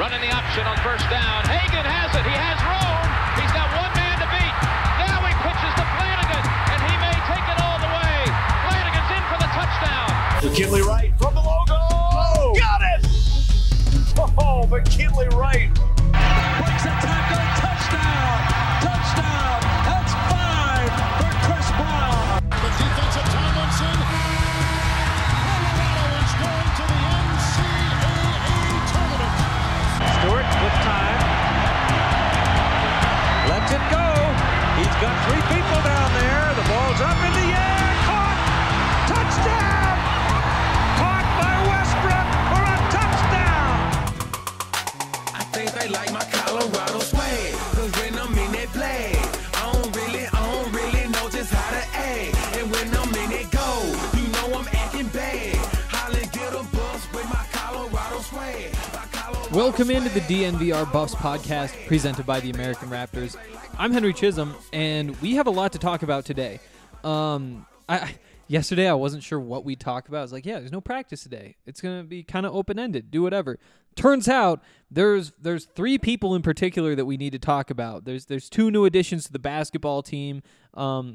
Running the option on first down. Hagan has it. He has room. He's got one man to beat. Now he pitches to Flanagan, and he may take it all the way. Flanagan's in for the touchdown. McKinley Wright from the logo. Oh, got it! Oh, McKinley Wright. Breaks a tackle. Touchdown. Touchdown. That's 5 for Chris Brown. The defensive Tomlinson. Colorado is going to the NCAA tournament. Stewart with time. Lets it go. He's got 3 people down there. The ball's up in the air. Caught. Touchdown. Caught by Westbrook for a touchdown. I think they like my Colorado swag. Cause when I'm in that play, I don't really know just how to act. And when I'm in it go, you know I'm acting bad. Holly get a bus with my Colorado swag. Welcome into the DNVR Buffs podcast presented by the American Raptors. I'm Henry Chisholm, and we have a lot to talk about today. Yesterday, I wasn't sure what we'd talk about. I was like, yeah, there's no practice today. It's going to be kind of open-ended. Do whatever. Turns out there's 3 people in particular that we need to talk about. There's 2 new additions to the basketball team. The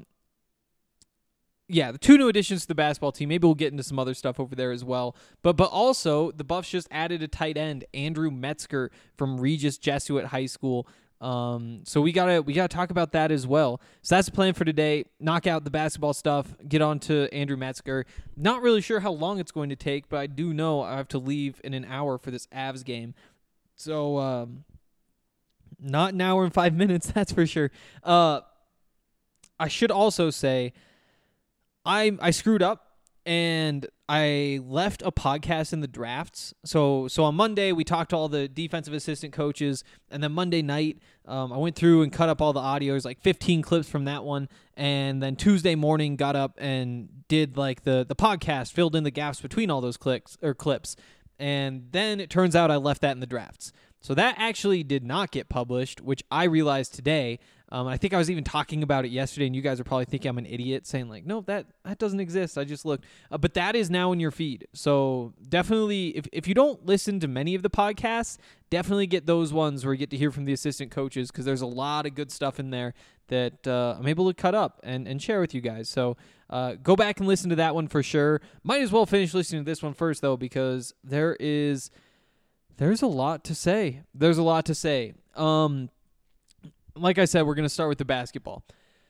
2 new additions to the basketball team. Maybe we'll get into some other stuff over there as well. But also, the Buffs just added a tight end, Andrew Metzger from Regis Jesuit High School. So we gotta talk about that as well. So that's the plan for today. Knock out the basketball stuff. Get on to Andrew Metzger. Not really sure how long it's going to take, but I do know I have to leave in an hour for this Avs game. So not an hour and 5 minutes, that's for sure. I should also say I screwed up and I left a podcast in the drafts. So on Monday, we talked to all the defensive assistant coaches, and then Monday night, I went through and cut up all the audios, like 15 clips from that one, and then Tuesday morning got up and did like the podcast, filled in the gaps between all those clips, and then it turns out I left that in the drafts. So that actually did not get published, which I realized today. I think I was even talking about it yesterday, and you guys are probably thinking I'm an idiot, saying like, no, that doesn't exist. I just looked. But that is now in your feed. So definitely, if you don't listen to many of the podcasts, definitely get those ones where you get to hear from the assistant coaches, because there's a lot of good stuff in there that I'm able to cut up and share with you guys. So go back and listen to that one for sure. Might as well finish listening to this one first, though, because there's a lot to say. There's a lot to say. Like I said, we're going to start with the basketball.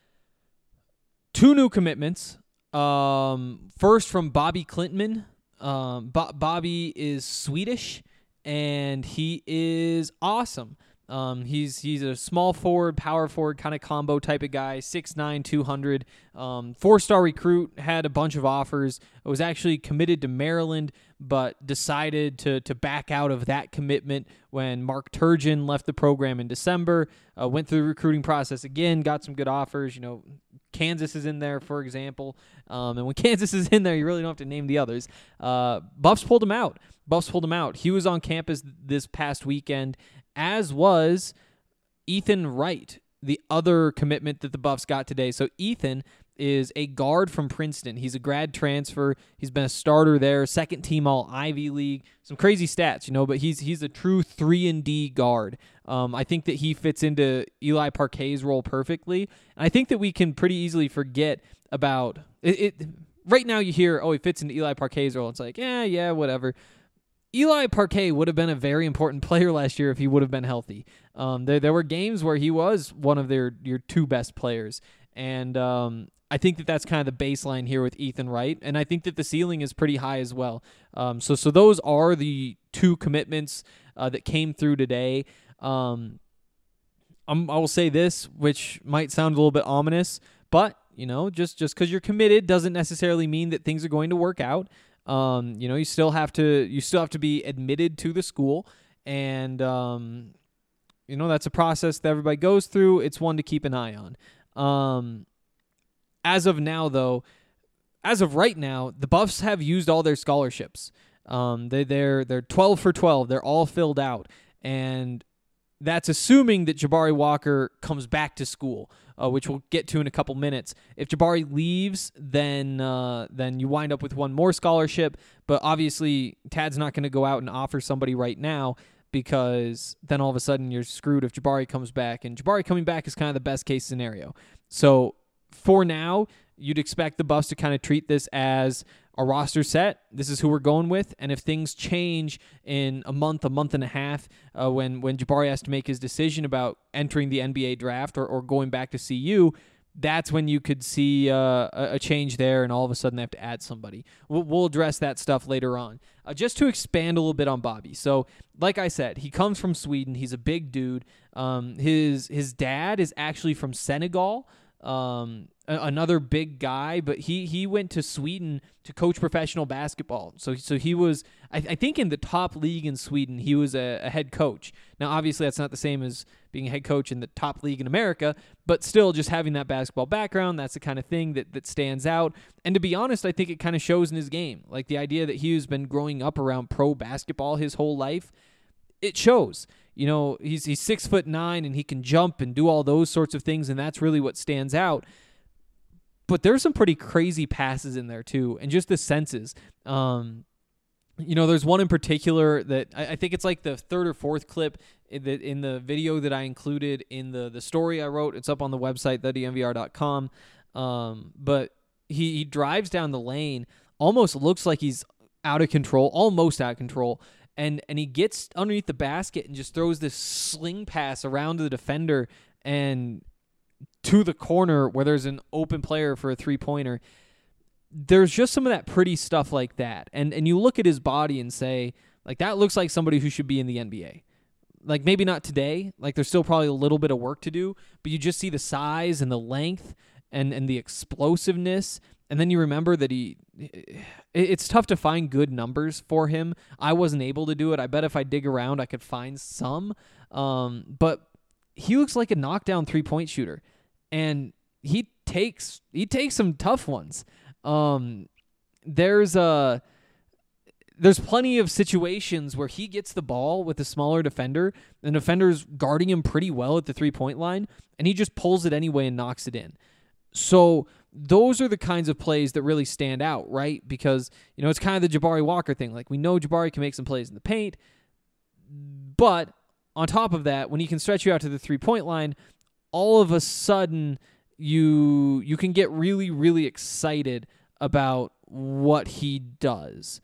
2 new commitments. First from Bobby Klintman. Bobby is Swedish, and he is awesome. He's a small forward, power forward kind of combo type of guy, 6'9", 200. 4-star recruit, had a bunch of offers. Was actually committed to Maryland, but decided to back out of that commitment when Mark Turgeon left the program in December. Went through the recruiting process again, got some good offers. You know, Kansas is in there, for example. And when Kansas is in there, you really don't have to name the others. Buffs pulled him out. He was on campus this past weekend, as was Ethan Wright, the other commitment that the Buffs got today. So Ethan is a guard from Princeton. He's a grad transfer. He's been a starter there, second team all Ivy League. Some crazy stats, but he's a true 3-and-D guard. I think that he fits into Eli Parquet's role perfectly. And I think that we can pretty easily forget about it. Right now you hear, he fits into Eli Parquet's role. It's like, yeah, whatever. Eli Parquet would have been a very important player last year if he would have been healthy. There were games where he was one of your 2 best players. And I think that that's kind of the baseline here with Ethan Wright, and I think that the ceiling is pretty high as well. So those are the 2 commitments that came through today. I will say this, which might sound a little bit ominous, but just because you're committed doesn't necessarily mean that things are going to work out. You still have to be admitted to the school, and that's a process that everybody goes through. It's one to keep an eye on. As of right now, the Buffs have used all their scholarships. They're 12 for 12. They're all filled out, and that's assuming that Jabari Walker comes back to school, which we'll get to in a couple minutes. If Jabari leaves, then you wind up with one more scholarship. But obviously, Tad's not going to go out and offer somebody right now because then all of a sudden you're screwed if Jabari comes back, and Jabari coming back is kind of the best case scenario. So for now, you'd expect the Buffs to kind of treat this as a roster set. This is who we're going with, and if things change in a month and a half, when Jabari has to make his decision about entering the NBA draft or going back to CU, that's when you could see a change there, and all of a sudden they have to add somebody. We'll address that stuff later on. Just to expand a little bit on Bobby. So, like I said, he comes from Sweden. He's a big dude. His dad is actually from Senegal, another big guy, but he went to Sweden to coach professional basketball. So he was, I think, in the top league in Sweden. He was a head coach. Now, obviously, that's not the same as being a head coach in the top league in America, but still, just having that basketball background, that's the kind of thing that stands out. And to be honest, I think it kind of shows in his game. Like the idea that he's been growing up around pro basketball his whole life, it shows. You know, he's 6'9" and he can jump and do all those sorts of things, and that's really what stands out. But there's some pretty crazy passes in there too, and just the senses. You know, there's one in particular that I think it's like the third or fourth clip in the video that I included in the story I wrote. It's up on the website, thedmvr.com. But he drives down the lane, almost looks like he's out of control, almost out of control. And he gets underneath the basket and just throws this sling pass around to the defender and to the corner where there's an open player for a three-pointer. There's just some of that pretty stuff like that. And you look at his body and say, like, that looks like somebody who should be in the NBA. Like, maybe not today. Like, there's still probably a little bit of work to do, but you just see the size and the length and the explosiveness. And then you remember that it's tough to find good numbers for him. I wasn't able to do it. I bet if I dig around, I could find some. But he looks like a knockdown three-point shooter, and he takes some tough ones. There's plenty of situations where he gets the ball with a smaller defender, and the defender's guarding him pretty well at the three-point line, and he just pulls it anyway and knocks it in. So those are the kinds of plays that really stand out, right? Because, you know, it's kind of the Jabari Walker thing. Like, we know Jabari can make some plays in the paint, but on top of that, when he can stretch you out to the three-point line, all of a sudden you can get really, really excited about what he does.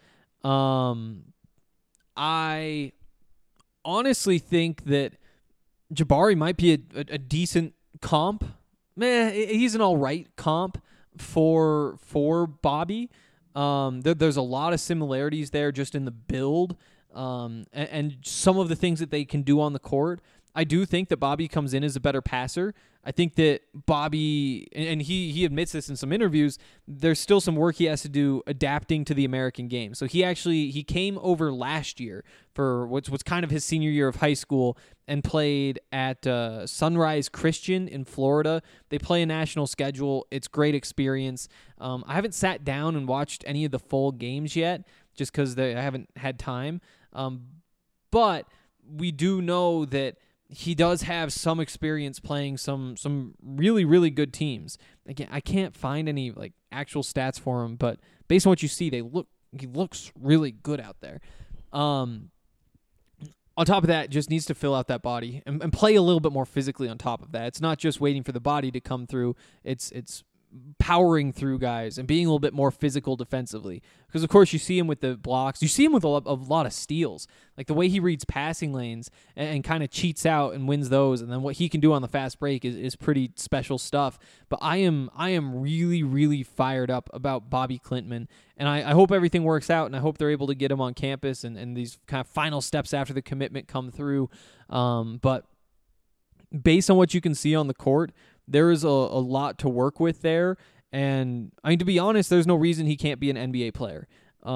I honestly think that Jabari might be a decent comp. He's an all right comp for Bobby. There's a lot of similarities there just in the build and some of the things that they can do on the court. I do think that Bobby comes in as a better passer. I think that Bobby, and he admits this in some interviews, there's still some work he has to do adapting to the American game. So he came over last year for what's kind of his senior year of high school and played at Sunrise Christian in Florida. They play a national schedule. It's great experience. I haven't sat down and watched any of the full games yet just because I haven't had time. But we do know that he does have some experience playing some really, really good teams. Again, I can't find any like actual stats for him, but based on what you see, he looks really good out there. On top of that, just needs to fill out that body and play a little bit more physically on top of that. It's not just waiting for the body to come through. It's powering through guys and being a little bit more physical defensively. Because, of course, you see him with the blocks. You see him with a lot of steals. Like the way he reads passing lanes and kind of cheats out and wins those. And then what he can do on the fast break is pretty special stuff. But I am really, really fired up about Bobby Klintman. And I hope everything works out, and I hope they're able to get him on campus and these kind of final steps after the commitment come through. But based on what you can see on the court, there is a lot to work with there. And I mean, to be honest, there's no reason he can't be an NBA player.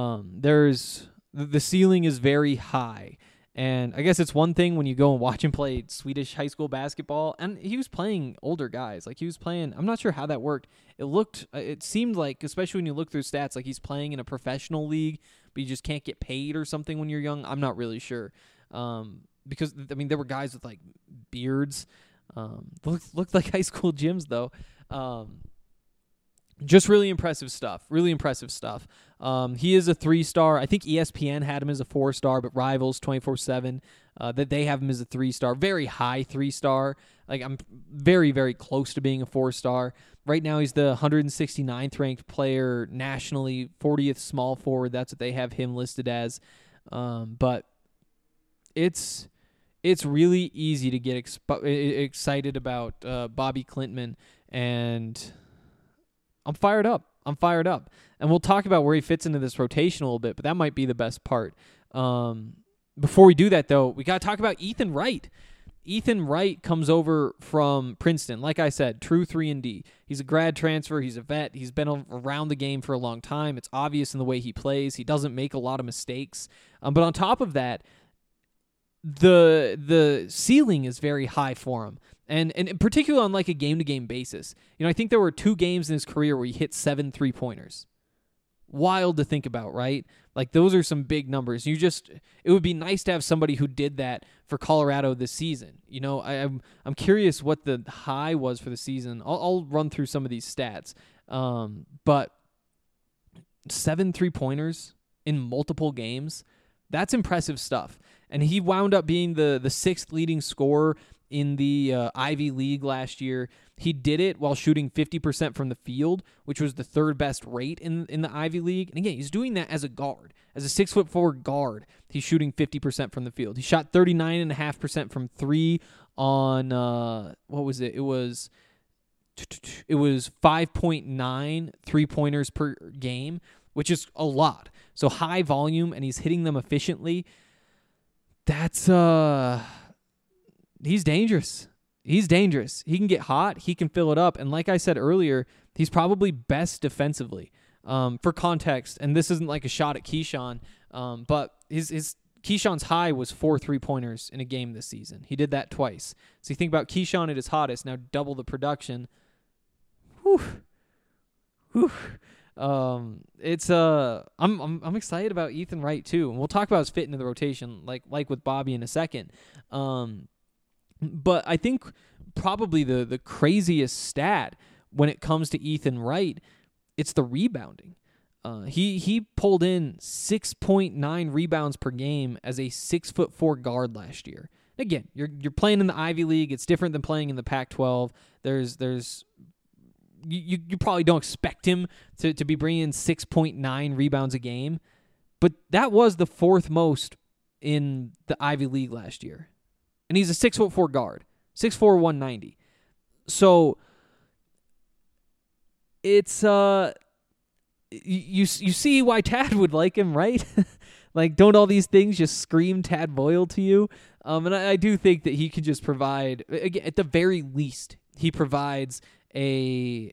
The ceiling is very high. And I guess it's one thing when you go and watch him play Swedish high school basketball, and he was playing older guys. Like he was playing, I'm not sure how that worked. It seemed like, especially when you look through stats, like he's playing in a professional league, but you just can't get paid or something when you're young. I'm not really sure. Because, I mean, there were guys with like beards. Looked like high school gyms though. Just really impressive stuff. Really impressive stuff. He is a 3-star. I think ESPN had him as a 4-star, but Rivals 24/7 that they have him as a 3-star, very high 3-star. Like, I'm very, very close to being a 4-star. Right now, he's the 169th ranked player nationally, 40th small forward. That's what they have him listed as. But it's really easy to get excited about Bobby Klintman, and I'm fired up. And we'll talk about where he fits into this rotation a little bit, but that might be the best part. Before we do that, though, we got to talk about Ethan Wright. Ethan Wright comes over from Princeton. Like I said, true 3-and-D. He's a grad transfer. He's a vet. He's been around the game for a long time. It's obvious in the way he plays. He doesn't make a lot of mistakes. But on top of that, the ceiling is very high for him. And in particular on like a game-to-game basis. I think there were 2 games in his career where he hit 7 3-pointers. Wild to think about, right? Like, those are some big numbers. It would be nice to have somebody who did that for Colorado this season. I'm curious what the high was for the season. I'll run through some of these stats. But 7 3-pointers in multiple games, that's impressive stuff. And he wound up being the 6th leading scorer in the Ivy League last year. He did it while shooting 50% from the field, which was the 3rd best rate in the Ivy League. And again, he's doing that as a guard. As a 6'4" guard, he's shooting 50% from the field. He shot 39.5% from 3 on, what was it? It was 5.9 3-pointers per game, which is a lot. So high volume, and he's hitting them efficiently. That's, he's dangerous. He's dangerous. He can get hot. He can fill it up. And like I said earlier, he's probably best defensively. For context, and this isn't like a shot at Keyshawn, but his Keyshawn's high was 4 3-pointers in a game this season. He did that twice. So you think about Keyshawn at his hottest, now double the production. Whew. I'm excited about Ethan Wright too, and we'll talk about his fit into the rotation, like with Bobby in a second. But I think probably the craziest stat when it comes to Ethan Wright, it's the rebounding. He pulled in 6.9 rebounds per game as a 6'4" guard last year. Again, you're playing in the Ivy League. It's different than playing in the Pac-12. You probably don't expect him to be bringing in 6.9 rebounds a game, but that was the 4th most in the Ivy League last year. And he's a 6'4" guard, 6'4", 190. So it's you see why Tad would like him, right? Like, don't all these things just scream Tad Boyle to you? And I do think that he can just provide, again, at the very least, he provides a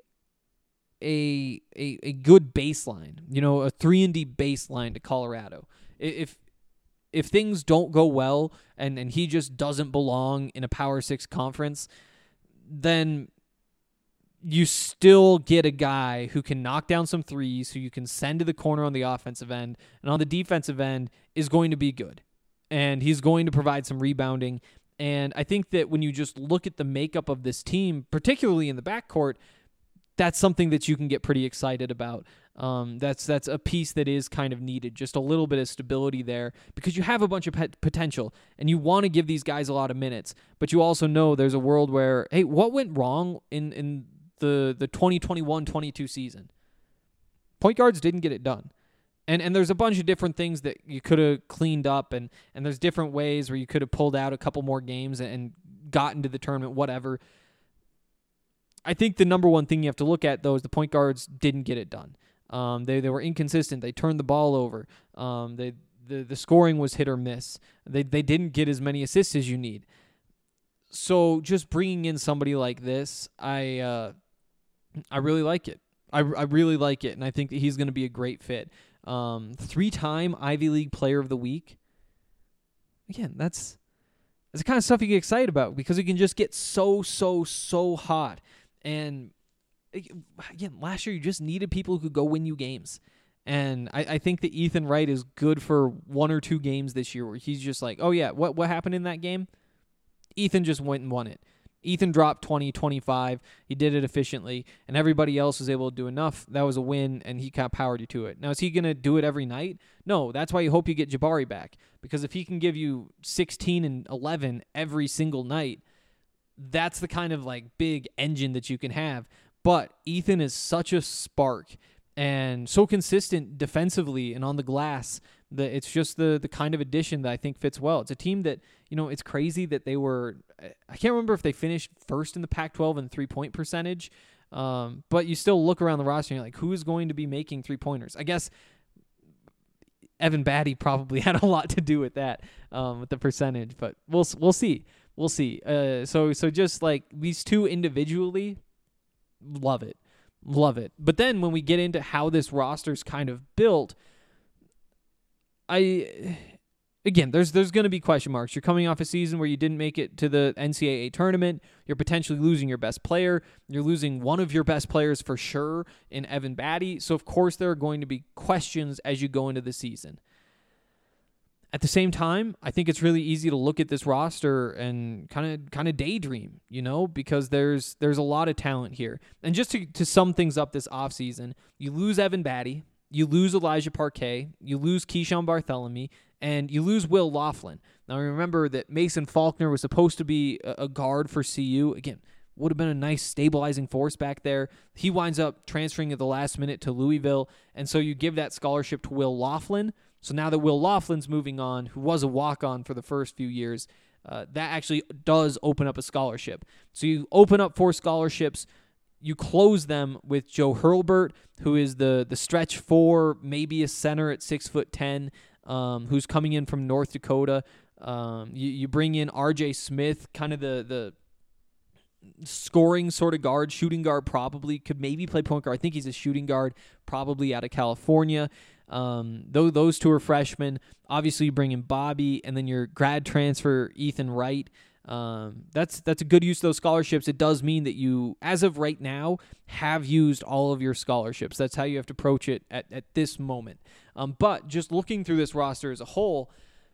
good baseline, a 3-and-D baseline to Colorado. If things don't go well and he just doesn't belong in a Power 6 conference, then you still get a guy who can knock down some threes, who you can send to the corner on the offensive end, and on the defensive end is going to be good. And he's going to provide some rebounding. And I think that when you just look at the makeup of this team, particularly in the backcourt, that's something that you can get pretty excited about. That's a piece that is kind of needed, just a little bit of stability there, because you have a bunch of potential, and you want to give these guys a lot of minutes, but you also know there's a world where, hey, what went wrong in the 2021-22 season? Point guards didn't get it done. And there's a bunch of different things that you could have cleaned up, and there's different ways where you could have pulled out a couple more games and gotten to the tournament, whatever. I think the number one thing you have to look at, though, is the point guards didn't get it done. They were inconsistent. They turned the ball over. The scoring was hit or miss. They didn't get as many assists as you need. So just bringing in somebody like this, I really like it. I really like it, and I think that he's going to be a great fit. 3-time Ivy League Player of the Week. Again, that's the kind of stuff you get excited about, because it can just get so hot. And again, last year you just needed people who could go win you games. And I think that Ethan Wright is good for 1 or 2 games this year where he's just like, oh yeah, what happened in that game? Ethan just went and won it. Ethan dropped 20, 25. He did it efficiently, and everybody else was able to do enough. That was a win, and he kind of powered you to it. Now, is he going to do it every night? No, that's why you hope you get Jabari back, because if he can give you 16 and 11 every single night, that's the kind of like big engine that you can have. But Ethan is such a spark and so consistent defensively and on the glass that it's just the kind of addition that I think fits well. It's a team that, it's crazy that they were, I can't remember if they finished first in the Pac-12 in three-point percentage, but you still look around the roster and you're like, who is going to be making three-pointers? I guess Evan Batty probably had a lot to do with that, with the percentage, but we'll see. We'll see. So just like these two individually, love it. But then when we get into how this roster's kind of built, again, there's going to be question marks. You're coming off a season where you didn't make it to the NCAA tournament. You're potentially losing your best player. You're losing one of your best players for sure in Evan Batty. So, of course, there are going to be questions as you go into the season. At the same time, I think it's really easy to look at this roster and kind of daydream, because there's a lot of talent here. And just to sum things up this offseason, you lose Evan Batty, you lose Elijah Parquet, you lose Keyshawn Bartholomew, and you lose Will Laughlin. Now, remember that Mason Faulkner was supposed to be a guard for CU. Again, would have been a nice stabilizing force back there. He winds up transferring at the last minute to Louisville, and so you give that scholarship to Will Laughlin. So now that Will Laughlin's moving on, who was a walk-on for the first few years, that actually does open up a scholarship. So you open up 4 scholarships. You close them with Joe Hurlburt, who is the stretch 4, maybe a center at 6'10", who's coming in from North Dakota. You bring in R.J. Smith, kind of the scoring sort of guard, shooting guard probably, could maybe play point guard. I think he's a shooting guard, probably out of California. Though those 2 are freshmen. Obviously, you bring in Bobby, and then your grad transfer, Ethan Wright. That's a good use of those scholarships. It does mean that you, as of right now, have used all of your scholarships. That's how you have to approach it at this moment. But just looking through this roster as a whole,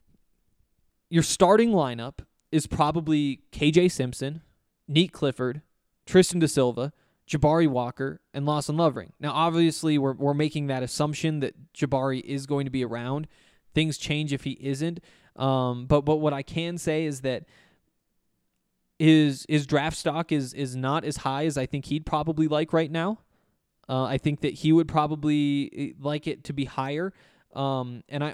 your starting lineup is probably KJ Simpson, Neat Clifford, Tristan Da Silva, Jabari Walker, and Lawson Lovering. Now, obviously, we're making that assumption that Jabari is going to be around. Things change if he isn't. But what I can say is that his draft stock is not as high as I think he'd probably like right now. I think that he would probably like it to be higher. And I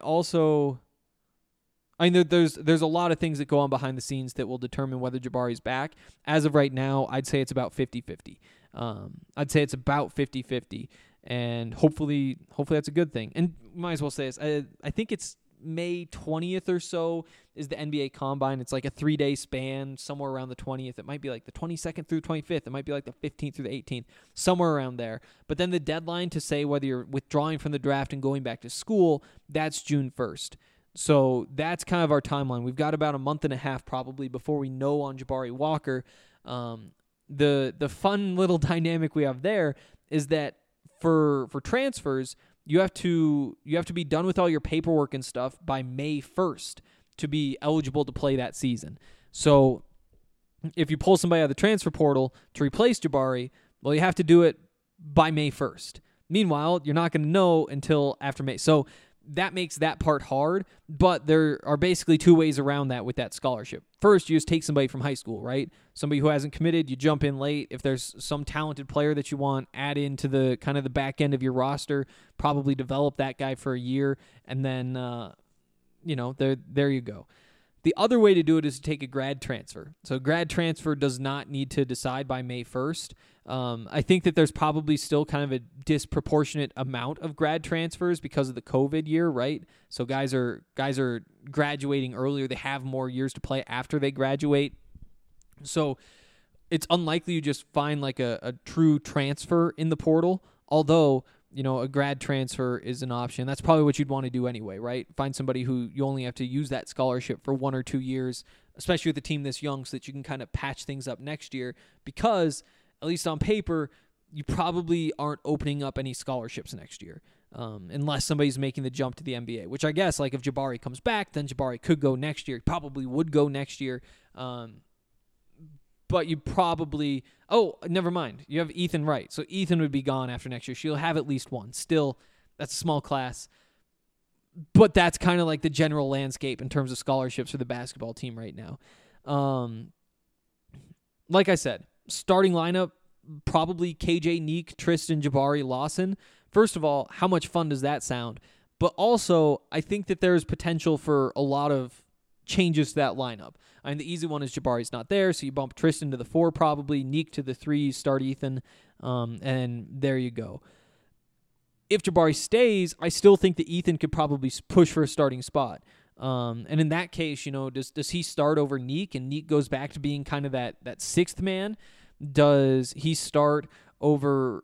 know there's a lot of things that go on behind the scenes that will determine whether Jabari's back. As of right now, I'd say it's about 50-50. I'd say it's about 50-50, and hopefully that's a good thing. And might as well say this. I think it's May 20th or so is the NBA Combine. It's like a 3-day span, somewhere around the 20th. It might be like the 22nd through 25th. It might be like the 15th through the 18th, somewhere around there. But then the deadline to say whether you're withdrawing from the draft and going back to school, that's June 1st. So that's kind of our timeline. We've got about a month and a half probably before we know on Jabari Walker. The fun little dynamic we have there is that for transfers, you have to be done with all your paperwork and stuff by May 1st to be eligible to play that season. So if you pull somebody out of the transfer portal to replace Jabari, well, you have to do it by May 1st. Meanwhile, you're not going to know until after May. So that makes that part hard, but there are basically 2 ways around that with that scholarship. First, you just take somebody from high school, right? Somebody who hasn't committed, you jump in late. If there's some talented player that you want, add into the kind of the back end of your roster, probably develop that guy for a year, and then, there you go. The other way to do it is to take a grad transfer. So grad transfer does not need to decide by May 1st. I think that there's probably still kind of a disproportionate amount of grad transfers because of the COVID year, right? So guys are graduating earlier. They have more years to play after they graduate. So it's unlikely you just find like a true transfer in the portal, although a grad transfer is an option. That's probably what you'd want to do anyway, right? Find somebody who you only have to use that scholarship for 1 or 2 years, especially with a team this young, so that you can kind of patch things up next year, because at least on paper, you probably aren't opening up any scholarships next year, unless somebody's making the jump to the NBA, which I guess, like if Jabari comes back, then Jabari could go next year. Probably would go next year. but you probably never mind. You have Ethan Wright. So Ethan would be gone after next year. She'll have at least one. Still, that's a small class. But that's kind of like the general landscape in terms of scholarships for the basketball team right now. Like I said, starting lineup, probably KJ, Neek, Tristan, Jabari, Lawson. First of all, how much fun does that sound? But also, I think that there's potential for a lot of changes to that lineup. I mean, the easy one is Jabari's not there, so you bump Tristan to the 4 probably, Neek to the 3, start Ethan, and there you go. If Jabari stays, I still think that Ethan could probably push for a starting spot. And in that case, does he start over Neek, and Neek goes back to being kind of that sixth man? Does he start over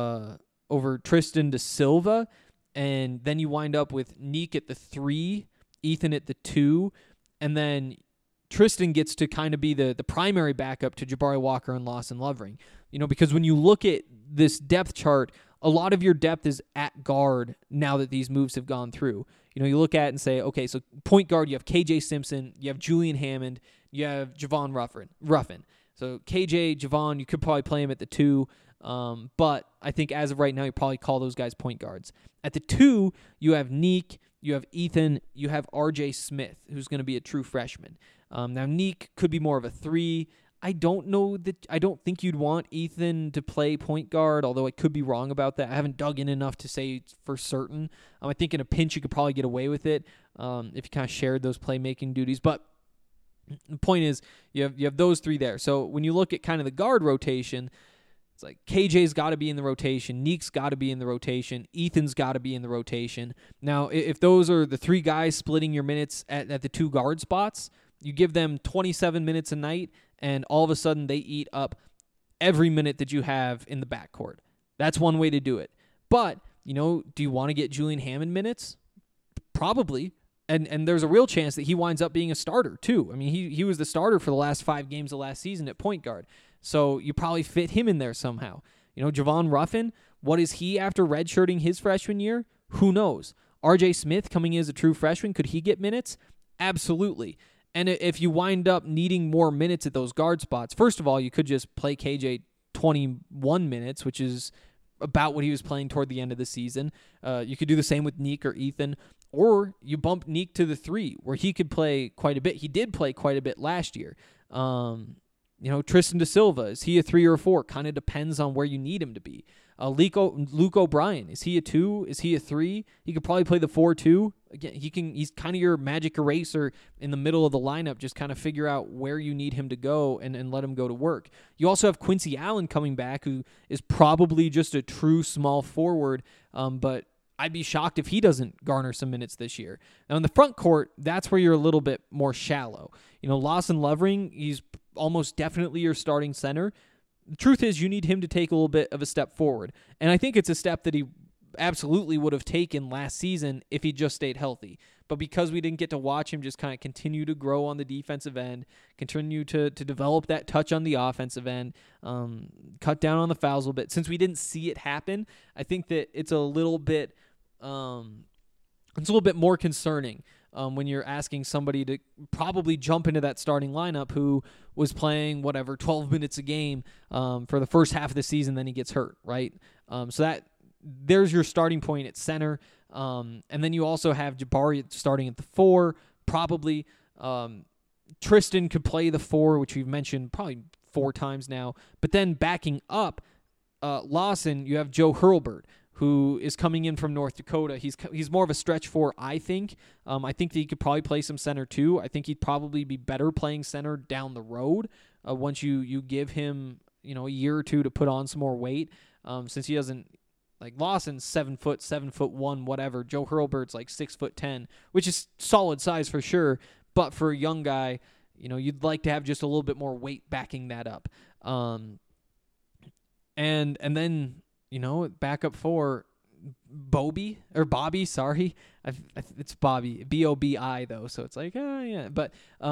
Tristan de Silva, and then you wind up with Neek at the 3, Ethan at the 2, and then Tristan gets to kind of be the primary backup to Jabari Walker and Lawson Lovering. Because when you look at this depth chart, a lot of your depth is at guard now that these moves have gone through. You look at it and say, okay, so point guard, you have KJ Simpson, you have Julian Hammond, you have Javon Ruffin. So KJ, Javon, you could probably play him at the 2, but I think as of right now, you probably call those guys point guards. At the 2, you have Neek, you have Ethan, you have RJ Smith, who's going to be a true freshman. Now, Neek could be more of a 3. I don't think you'd want Ethan to play point guard, although I could be wrong about that. I haven't dug in enough to say for certain. I think in a pinch you could probably get away with it if you kind of shared those playmaking duties. But the point is you have those 3 there. So when you look at kind of the guard rotation, it's like KJ's got to be in the rotation, Neek's got to be in the rotation, Ethan's got to be in the rotation. Now, if those are the 3 guys splitting your minutes at the 2 guard spots, you give them 27 minutes a night, and all of a sudden they eat up every minute that you have in the backcourt. That's one way to do it. But, do you want to get Julian Hammond minutes? Probably. And there's a real chance that he winds up being a starter, too. I mean, he was the starter for the last 5 games of last season at point guard. So you probably fit him in there somehow. Javon Ruffin, what is he after redshirting his freshman year? Who knows? RJ Smith coming in as a true freshman, could he get minutes? Absolutely. And if you wind up needing more minutes at those guard spots, first of all, you could just play KJ 21 minutes, which is about what he was playing toward the end of the season. You could do the same with Neek or Ethan, or you bump Neek to the 3, where he could play quite a bit. He did play quite a bit last year. Tristan de Silva, is he a 3 or a 4? Kind of depends on where you need him to be. Luke O'Brien, is he a 2? Is he a 3? He could probably play the 4 too. Again, he's kind of your magic eraser in the middle of the lineup. Just kind of figure out where you need him to go and let him go to work. You also have Quincy Allen coming back, who is probably just a true small forward, but I'd be shocked if he doesn't garner some minutes this year. Now, in the front court, that's where you're a little bit more shallow. Lawson Lovering, he's almost definitely your starting center. The truth is you need him to take a little bit of a step forward. And I think it's a step that he absolutely would have taken last season if he just stayed healthy. But because we didn't get to watch him just kind of continue to grow on the defensive end, continue to develop that touch on the offensive end, cut down on the fouls a little bit, since we didn't see it happen, I think that it's a little bit more concerning when you're asking somebody to probably jump into that starting lineup who was playing 12 minutes a game for the first half of the season, then he gets hurt, right? So there's your starting point at center. And then you also have Jabari starting at the 4, probably. Tristan could play the 4, which we've mentioned probably 4 times now. But then backing up Lawson, you have Joe Hurlburt, who is coming in from North Dakota. He's more of a stretch 4, I think. I think that he could probably play some center too. I think he'd probably be better playing center down the road once you give him a year or 2 to put on some more weight. Since he doesn't, like, Lawson's 7 foot, 7'1", whatever. Joe Hurlburt's like 6'10", which is solid size for sure. But for a young guy, you'd like to have just a little bit more weight backing that up. And then, backup 4, Bobby, sorry. It's Bobby, B-O-B-I though. So it's like, yeah. But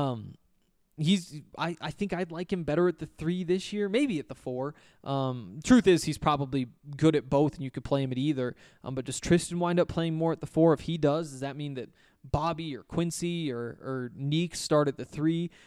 I think I'd like him better at the 3 this year, maybe at the 4. Truth is, he's probably good at both, and you could play him at either. But does Tristan wind up playing more at the 4? If he does that mean that Bobby or Quincy or Neek start at the 3?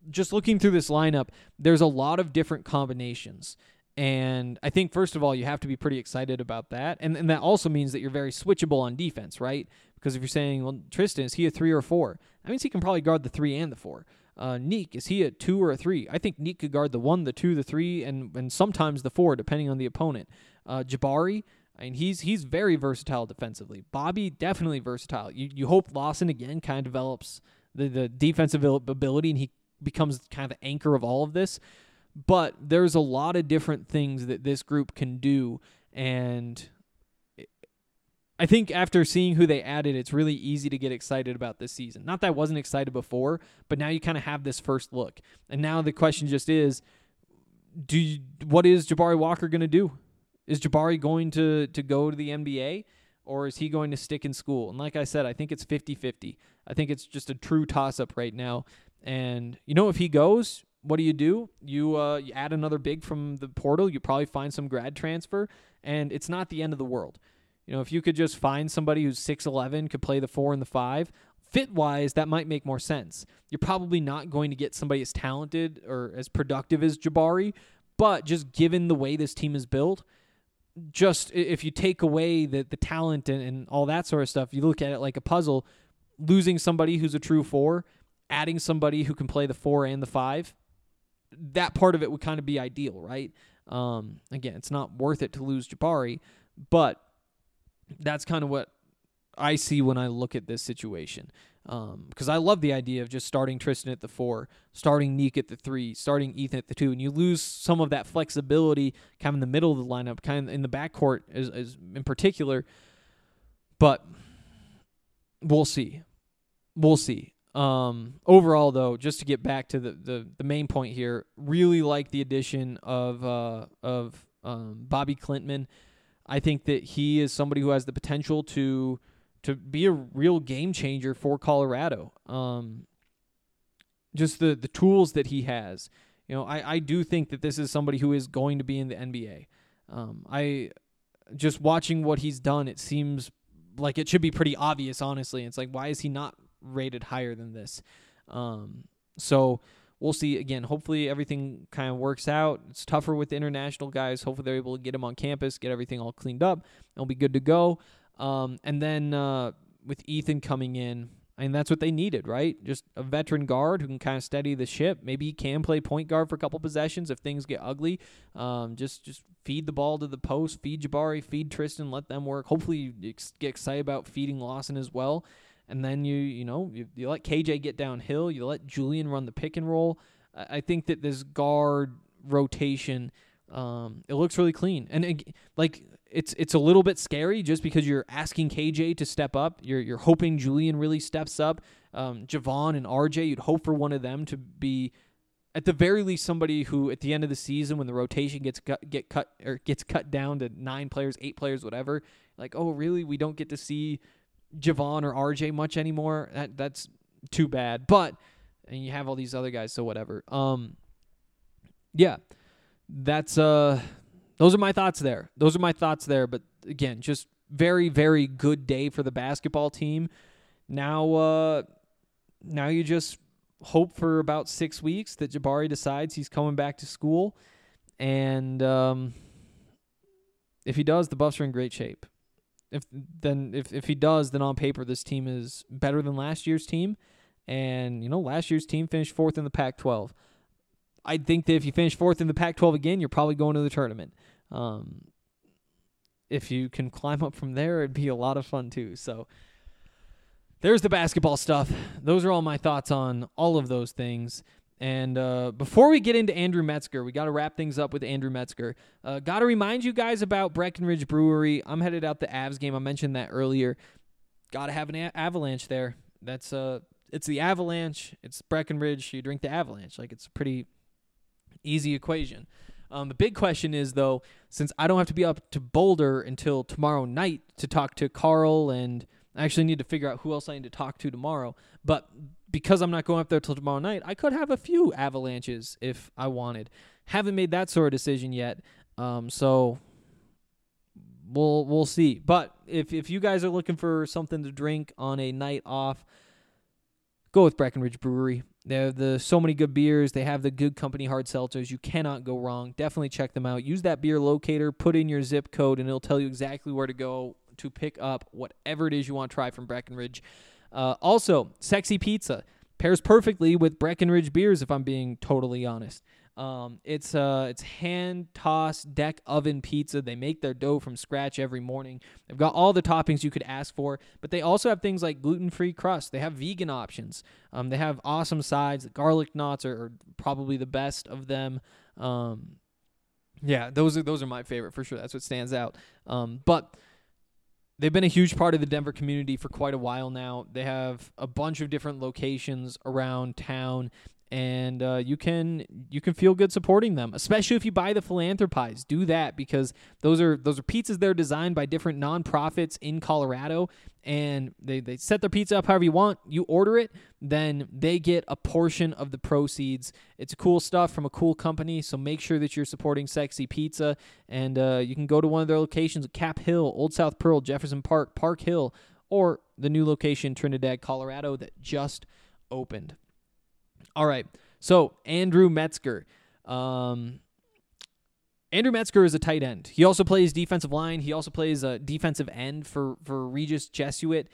just looking through this lineup, there's a lot of different combinations. And I think, first of all, you have to be pretty excited about that. And that also means that you're very switchable on defense, right? Because if you're saying, well, Tristan, is he a 3 or a 4? That means he can probably guard the 3 and the 4. Neek, is he a 2 or a 3? I think Neek could guard the 1, the 2, the 3, and sometimes the 4, depending on the opponent. Jabari, I mean, he's very versatile defensively. Bobby, definitely versatile. You hope Lawson, again, kind of develops the defensive ability, and he becomes kind of the anchor of all of this. But there's a lot of different things that this group can do, and I think after seeing who they added, it's really easy to get excited about this season. Not that I wasn't excited before, but now you kind of have this first look. And now the question just is, what is Jabari Walker going to do? Is Jabari going to go to the NBA, or is he going to stick in school? And like I said, I think it's 50-50. I think it's just a true toss-up right now. And, if he goes, what do? You add another big from the portal. You probably find some grad transfer, and it's not the end of the world. If you could just find somebody who's 6'11", could play the 4 and the 5, fit-wise, that might make more sense. You're probably not going to get somebody as talented or as productive as Jabari, but just given the way this team is built, just if you take away the talent and all that sort of stuff, you look at it like a puzzle, losing somebody who's a true 4, adding somebody who can play the 4 and the 5, that part of it would kind of be ideal, right? Again, it's not worth it to lose Jabari, but that's kind of what I see when I look at this situation. Because I love the idea of just starting Tristan at the 4, starting Neek at the 3, starting Ethan at the 2, and you lose some of that flexibility kind of in the middle of the lineup, kind of in the backcourt as in particular. But we'll see. Overall, though, just to get back to the main point here, really like the addition of Bobby Klintman. I think that he is somebody who has the potential to be a real game changer for Colorado. Just the tools that he has. I do think that this is somebody who is going to be in the NBA. I just watching what he's done, it seems like it should be pretty obvious, honestly. It's like, why is he not rated higher than this? So we'll see. Again, hopefully everything kind of works out. It's tougher with the international guys. Hopefully they're able to get him on campus, get everything all cleaned up. It'll be good to go. And then with Ethan coming in, I mean, that's what they needed, right? Just a veteran guard who can kind of steady the ship. Maybe he can play point guard for a couple possessions if things get ugly. Just feed the ball to the post, feed Jabari, feed Tristan, let them work. Hopefully you get excited about feeding Lawson as well. And then you let KJ get downhill. You let Julian run the pick and roll. I think that this guard rotation, it looks really clean. And it's a little bit scary just because you're asking KJ to step up. You're hoping Julian really steps up. Javon and RJ, you'd hope for one of them to be at the very least somebody who at the end of the season when the rotation gets cut down to 9 players, 8 players, whatever. Like, oh really? We don't get to see Javon or RJ much anymore. That's too bad. But and you have all these other guys, so whatever. Yeah. That's those are my thoughts there. But again, just very, very good day for the basketball team. Now you just hope for about 6 weeks that Jabari decides he's coming back to school. And if he does, the Buffs are in great shape. If he does, then on paper this team is better than last year's team. And, last year's team finished 4th in the Pac-12. I think that if you finish 4th in the Pac-12 again, you're probably going to the tournament. If you can climb up from there, it'd be a lot of fun too. So there's the basketball stuff. Those are all my thoughts on all of those things. And before we get into Andrew Metzger, we got to wrap things up with Andrew Metzger. Got to remind you guys about Breckenridge Brewery. I'm headed out the Avs game. I mentioned that earlier. Got to have an Avalanche there. That's it's the Avalanche. It's Breckenridge. You drink the Avalanche. Like, it's a pretty easy equation. The big question is, though, since I don't have to be up to Boulder until tomorrow night to talk to Carl, and I actually need to figure out who else I need to talk to tomorrow, but because I'm not going up there till tomorrow night, I could have a few Avalanches if I wanted. Haven't made that sort of decision yet, so we'll see. But if you guys are looking for something to drink on a night off, go with Breckenridge Brewery. They have so many good beers. They have the Good Company hard seltzers. You cannot go wrong. Definitely check them out. Use that beer locator, put in your zip code, and it'll tell you exactly where to go to pick up whatever it is you want to try from Breckenridge. Also, Sexy Pizza pairs perfectly with Breckenridge beers, if I'm being totally honest. It's hand-tossed deck oven pizza. They make their dough from scratch every morning. They've got all the toppings you could ask for, but they also have things like gluten-free crust. They have vegan options. They have awesome sides. The garlic knots are probably the best of them. Yeah, those are my favorite for sure. That's what stands out. But they've been a huge part of the Denver community for quite a while now. They have a bunch of different locations around town, and you can feel good supporting them, especially if you buy the Philanthropies. Do that, because those are pizzas that are designed by different nonprofits in Colorado, and they set their pizza up however you want. You order it, then they get a portion of the proceeds. It's cool stuff from a cool company, so make sure that you're supporting Sexy Pizza, and you can go to one of their locations at Cap Hill, Old South Pearl, Jefferson Park, Park Hill, or the new location, Trinidad, Colorado, that just opened. All right, so Andrew Metzger. Andrew Metzger is a tight end. He also plays defensive line. He also plays a defensive end for Regis Jesuit,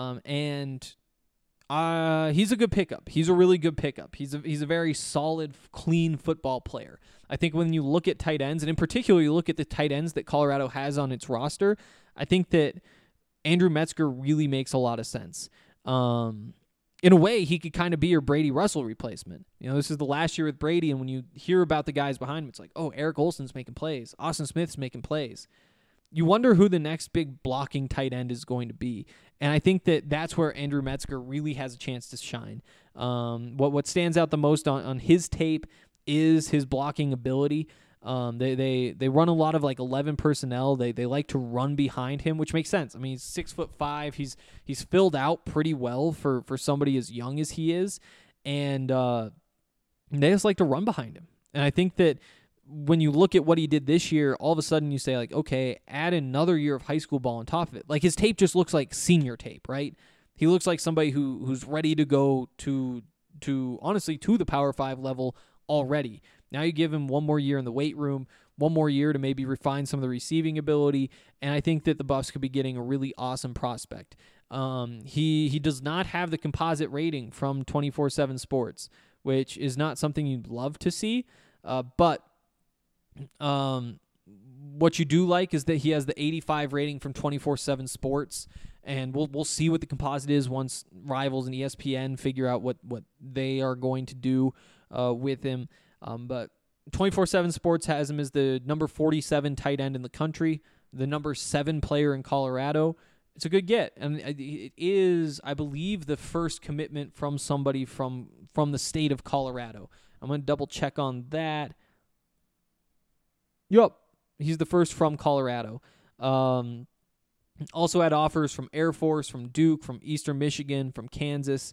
and he's a good pickup. He's a really good pickup. He's a very solid, clean football player. I think when you look at tight ends, and in particular you look at the tight ends that Colorado has on its roster, I think that Andrew Metzger really makes a lot of sense. In a way, he could kind of be your Brady Russell replacement. You know, this is the last year with Brady, and when you hear about the guys behind him, it's like, oh, Eric Olson's making plays. Austin Smith's making plays. You wonder who the next big blocking tight end is going to be. And I think that that's where Andrew Metzger really has a chance to shine. What stands out the most on his tape is his blocking ability. They run a lot of like 11 personnel. They like to run behind him, which makes sense. I mean, he's 6'5". He's filled out pretty well for somebody as young as he is, and they just like to run behind him. And I think that when you look at what he did this year, all of a sudden you say like, okay, add another year of high school ball on top of it. Like his tape just looks like senior tape, right? He looks like somebody who's ready to go to honestly to the Power 5 level already. Now you give him one more year in the weight room, one more year to maybe refine some of the receiving ability, and I think that the Buffs could be getting a really awesome prospect. He does not have the composite rating from 24/7 Sports, which is not something you'd love to see, but what you do like is that he has the 85 rating from 24/7 Sports, and we'll see what the composite is once Rivals and ESPN figure out what they are going to do with him. But 24/7 Sports has him as the number 47 tight end in the country, the number 7 player in Colorado. It's a good get, and it is, I believe, the first commitment from somebody from the state of Colorado. I'm going to double check on that. Yup, he's the first from Colorado. Also had offers from Air Force, from Duke, from Eastern Michigan, from Kansas,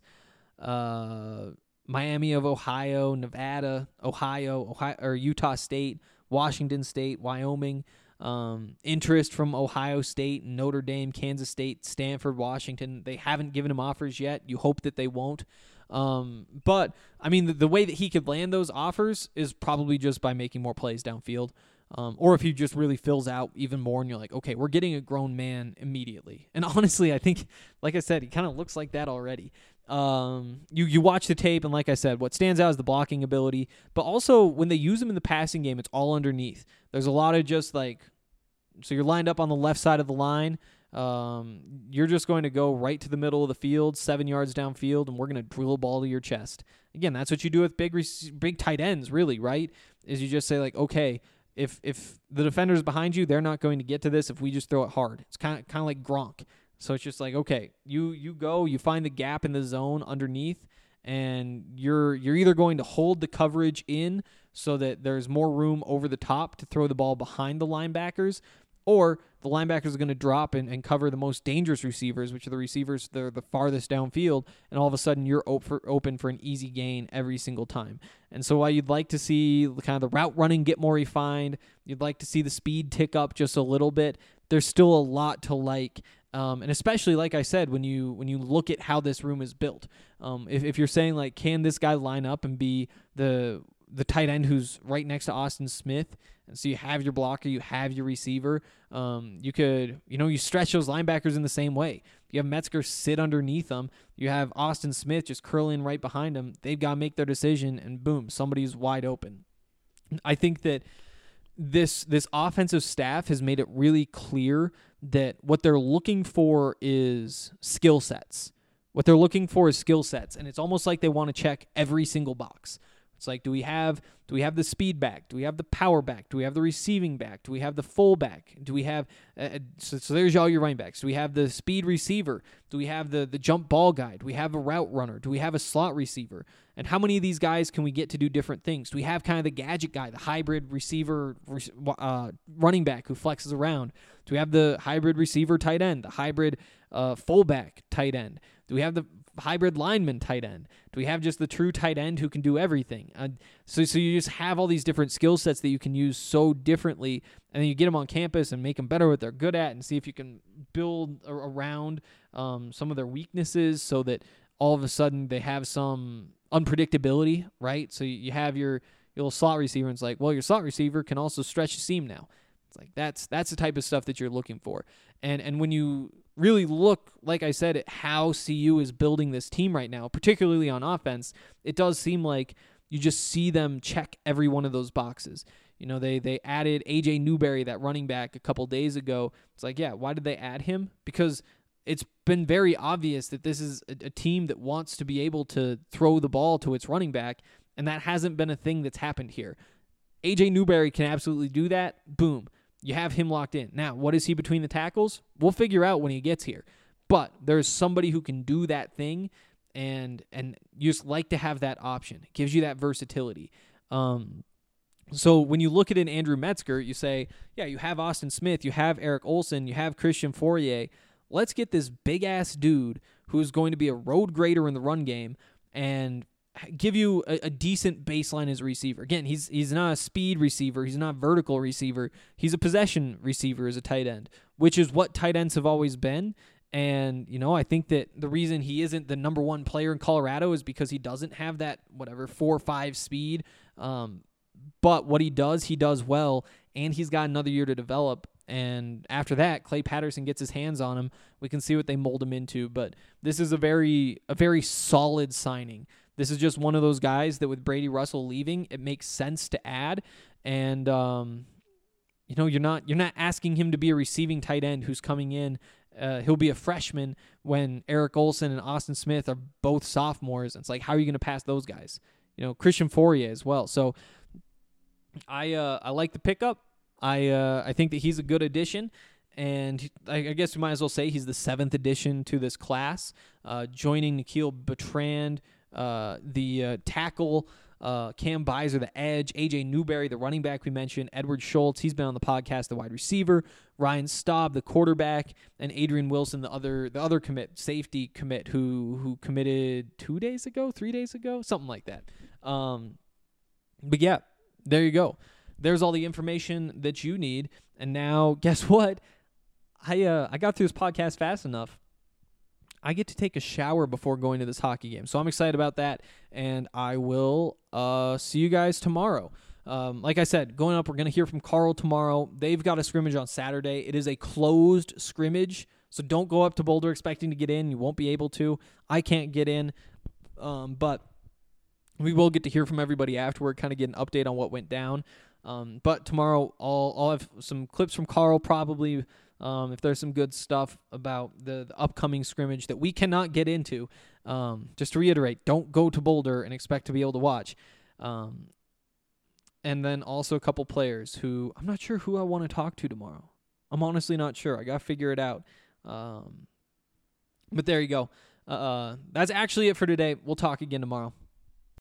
Miami of Ohio, Nevada, Ohio, or Utah State, Washington State, Wyoming, interest from Ohio State, Notre Dame, Kansas State, Stanford, Washington. They haven't given him offers yet. You hope that they won't. But, I mean, the way that he could land those offers is probably just by making more plays downfield. Or if he just really fills out even more and you're like, okay, we're getting a grown man immediately. And honestly, I think, like I said, he kind of looks like that already. You watch the tape, and like I said, what stands out is the blocking ability, but also when they use him in the passing game, it's all underneath. There's a lot of just like, so you're lined up on the left side of the line. You're just going to go right to the middle of the field, 7 yards downfield, and we're going to drill a ball to your chest. Again, that's what you do with big tight ends, really, right? Is you just say like, okay, if the defender's behind you, they're not going to get to this if we just throw it hard. It's kind of like Gronk. So it's just like, okay, you go, you find the gap in the zone underneath, and you're either going to hold the coverage in so that there's more room over the top to throw the ball behind the linebackers, or the linebackers are going to drop and cover the most dangerous receivers, which are the receivers that are the farthest downfield, and all of a sudden you're open for an easy gain every single time. And so while you'd like to see kind of the route running get more refined, you'd like to see the speed tick up just a little bit, there's still a lot to like And especially, like I said, when you look at how this room is built, if you're saying like, can this guy line up and be the tight end who's right next to Austin Smith, and so you have your blocker, you have your receiver, you could, you stretch those linebackers in the same way. You have Metzger sit underneath them, you have Austin Smith just curling right behind him. They've got to make their decision, and boom, somebody's wide open. I think that this offensive staff has made it really clear that what they're looking for is skill sets. What they're looking for is skill sets, and it's almost like they want to check every single box. It's like, do we have the speed back? Do we have the power back? Do we have the receiving back? Do we have the full back? Do we have so there's all your running backs. Do we have the speed receiver? Do we have the jump ball guy? Do we have a route runner? Do we have a slot receiver? And how many of these guys can we get to do different things? Do we have kind of the gadget guy, the hybrid receiver running back who flexes around? Do we have the hybrid receiver tight end, the hybrid fullback tight end? Do we have the hybrid lineman tight end? Do we have just the true tight end who can do everything? So you just have all these different skill sets that you can use so differently, and then you get them on campus and make them better what they're good at, and see if you can build around some of their weaknesses so that all of a sudden they have some unpredictability, right? So you have your little slot receiver, and it's like, well, your slot receiver can also stretch the seam now. It's like that's the type of stuff that you're looking for. And when you really look, like I said, at how CU is building this team right now, particularly on offense, it does seem like you just see them check every one of those boxes. They added A.J. Newberry, that running back, a couple days ago. It's like, yeah, why did they add him? Because it's been very obvious that this is a team that wants to be able to throw the ball to its running back, and that hasn't been a thing that's happened here. A.J. Newberry can absolutely do that. Boom. You have him locked in. Now, what is he between the tackles? We'll figure out when he gets here. But there's somebody who can do that thing, and you just like to have that option. It gives you that versatility. So when you look at an Andrew Metzger, you say, yeah, you have Austin Smith, you have Eric Olson, you have Christian Fourier. Let's get this big-ass dude who is going to be a road grader in the run game and give you a decent baseline as a receiver. Again, he's not a speed receiver. He's not a vertical receiver. He's a possession receiver as a tight end, which is what tight ends have always been. And, I think that the reason he isn't the number one player in Colorado is because he doesn't have that, 4 or 5 speed. But what he does well, and he's got another year to develop. And after that, Clay Patterson gets his hands on him. We can see what they mold him into. But this is a very solid signing. This is just one of those guys that with Brady Russell leaving, it makes sense to add. And you're not asking him to be a receiving tight end who's coming in. He'll be a freshman when Eric Olson and Austin Smith are both sophomores. It's like, how are you going to pass those guys? Christian Fourier as well. So I like the pickup. I think that he's a good addition. And I guess we might as well say he's the 7th addition to this class, joining Nikhil Bertrand, the tackle, Cam Beiser, the edge, A.J. Newberry, the running back we mentioned, Edward Schultz, he's been on the podcast, the wide receiver, Ryan Staub, the quarterback, and Adrian Wilson, the other commit, safety commit, who committed 3 days ago, something like that. But yeah, there you go. There's all the information that you need. And now, guess what? I got through this podcast fast enough. I get to take a shower before going to this hockey game. So I'm excited about that, and I will see you guys tomorrow. Like I said, going up, we're going to hear from Carl tomorrow. They've got a scrimmage on Saturday. It is a closed scrimmage, so don't go up to Boulder expecting to get in. You won't be able to. I can't get in, but we will get to hear from everybody afterward, kind of get an update on what went down. But tomorrow I'll have some clips from Carl probably, if there's some good stuff about the upcoming scrimmage that we cannot get into. Just to reiterate, don't go to Boulder and expect to be able to watch. And then also a couple players who I'm not sure who I want to talk to tomorrow. I'm honestly not sure. I got to figure it out. But there you go. That's actually it for today. We'll talk again tomorrow.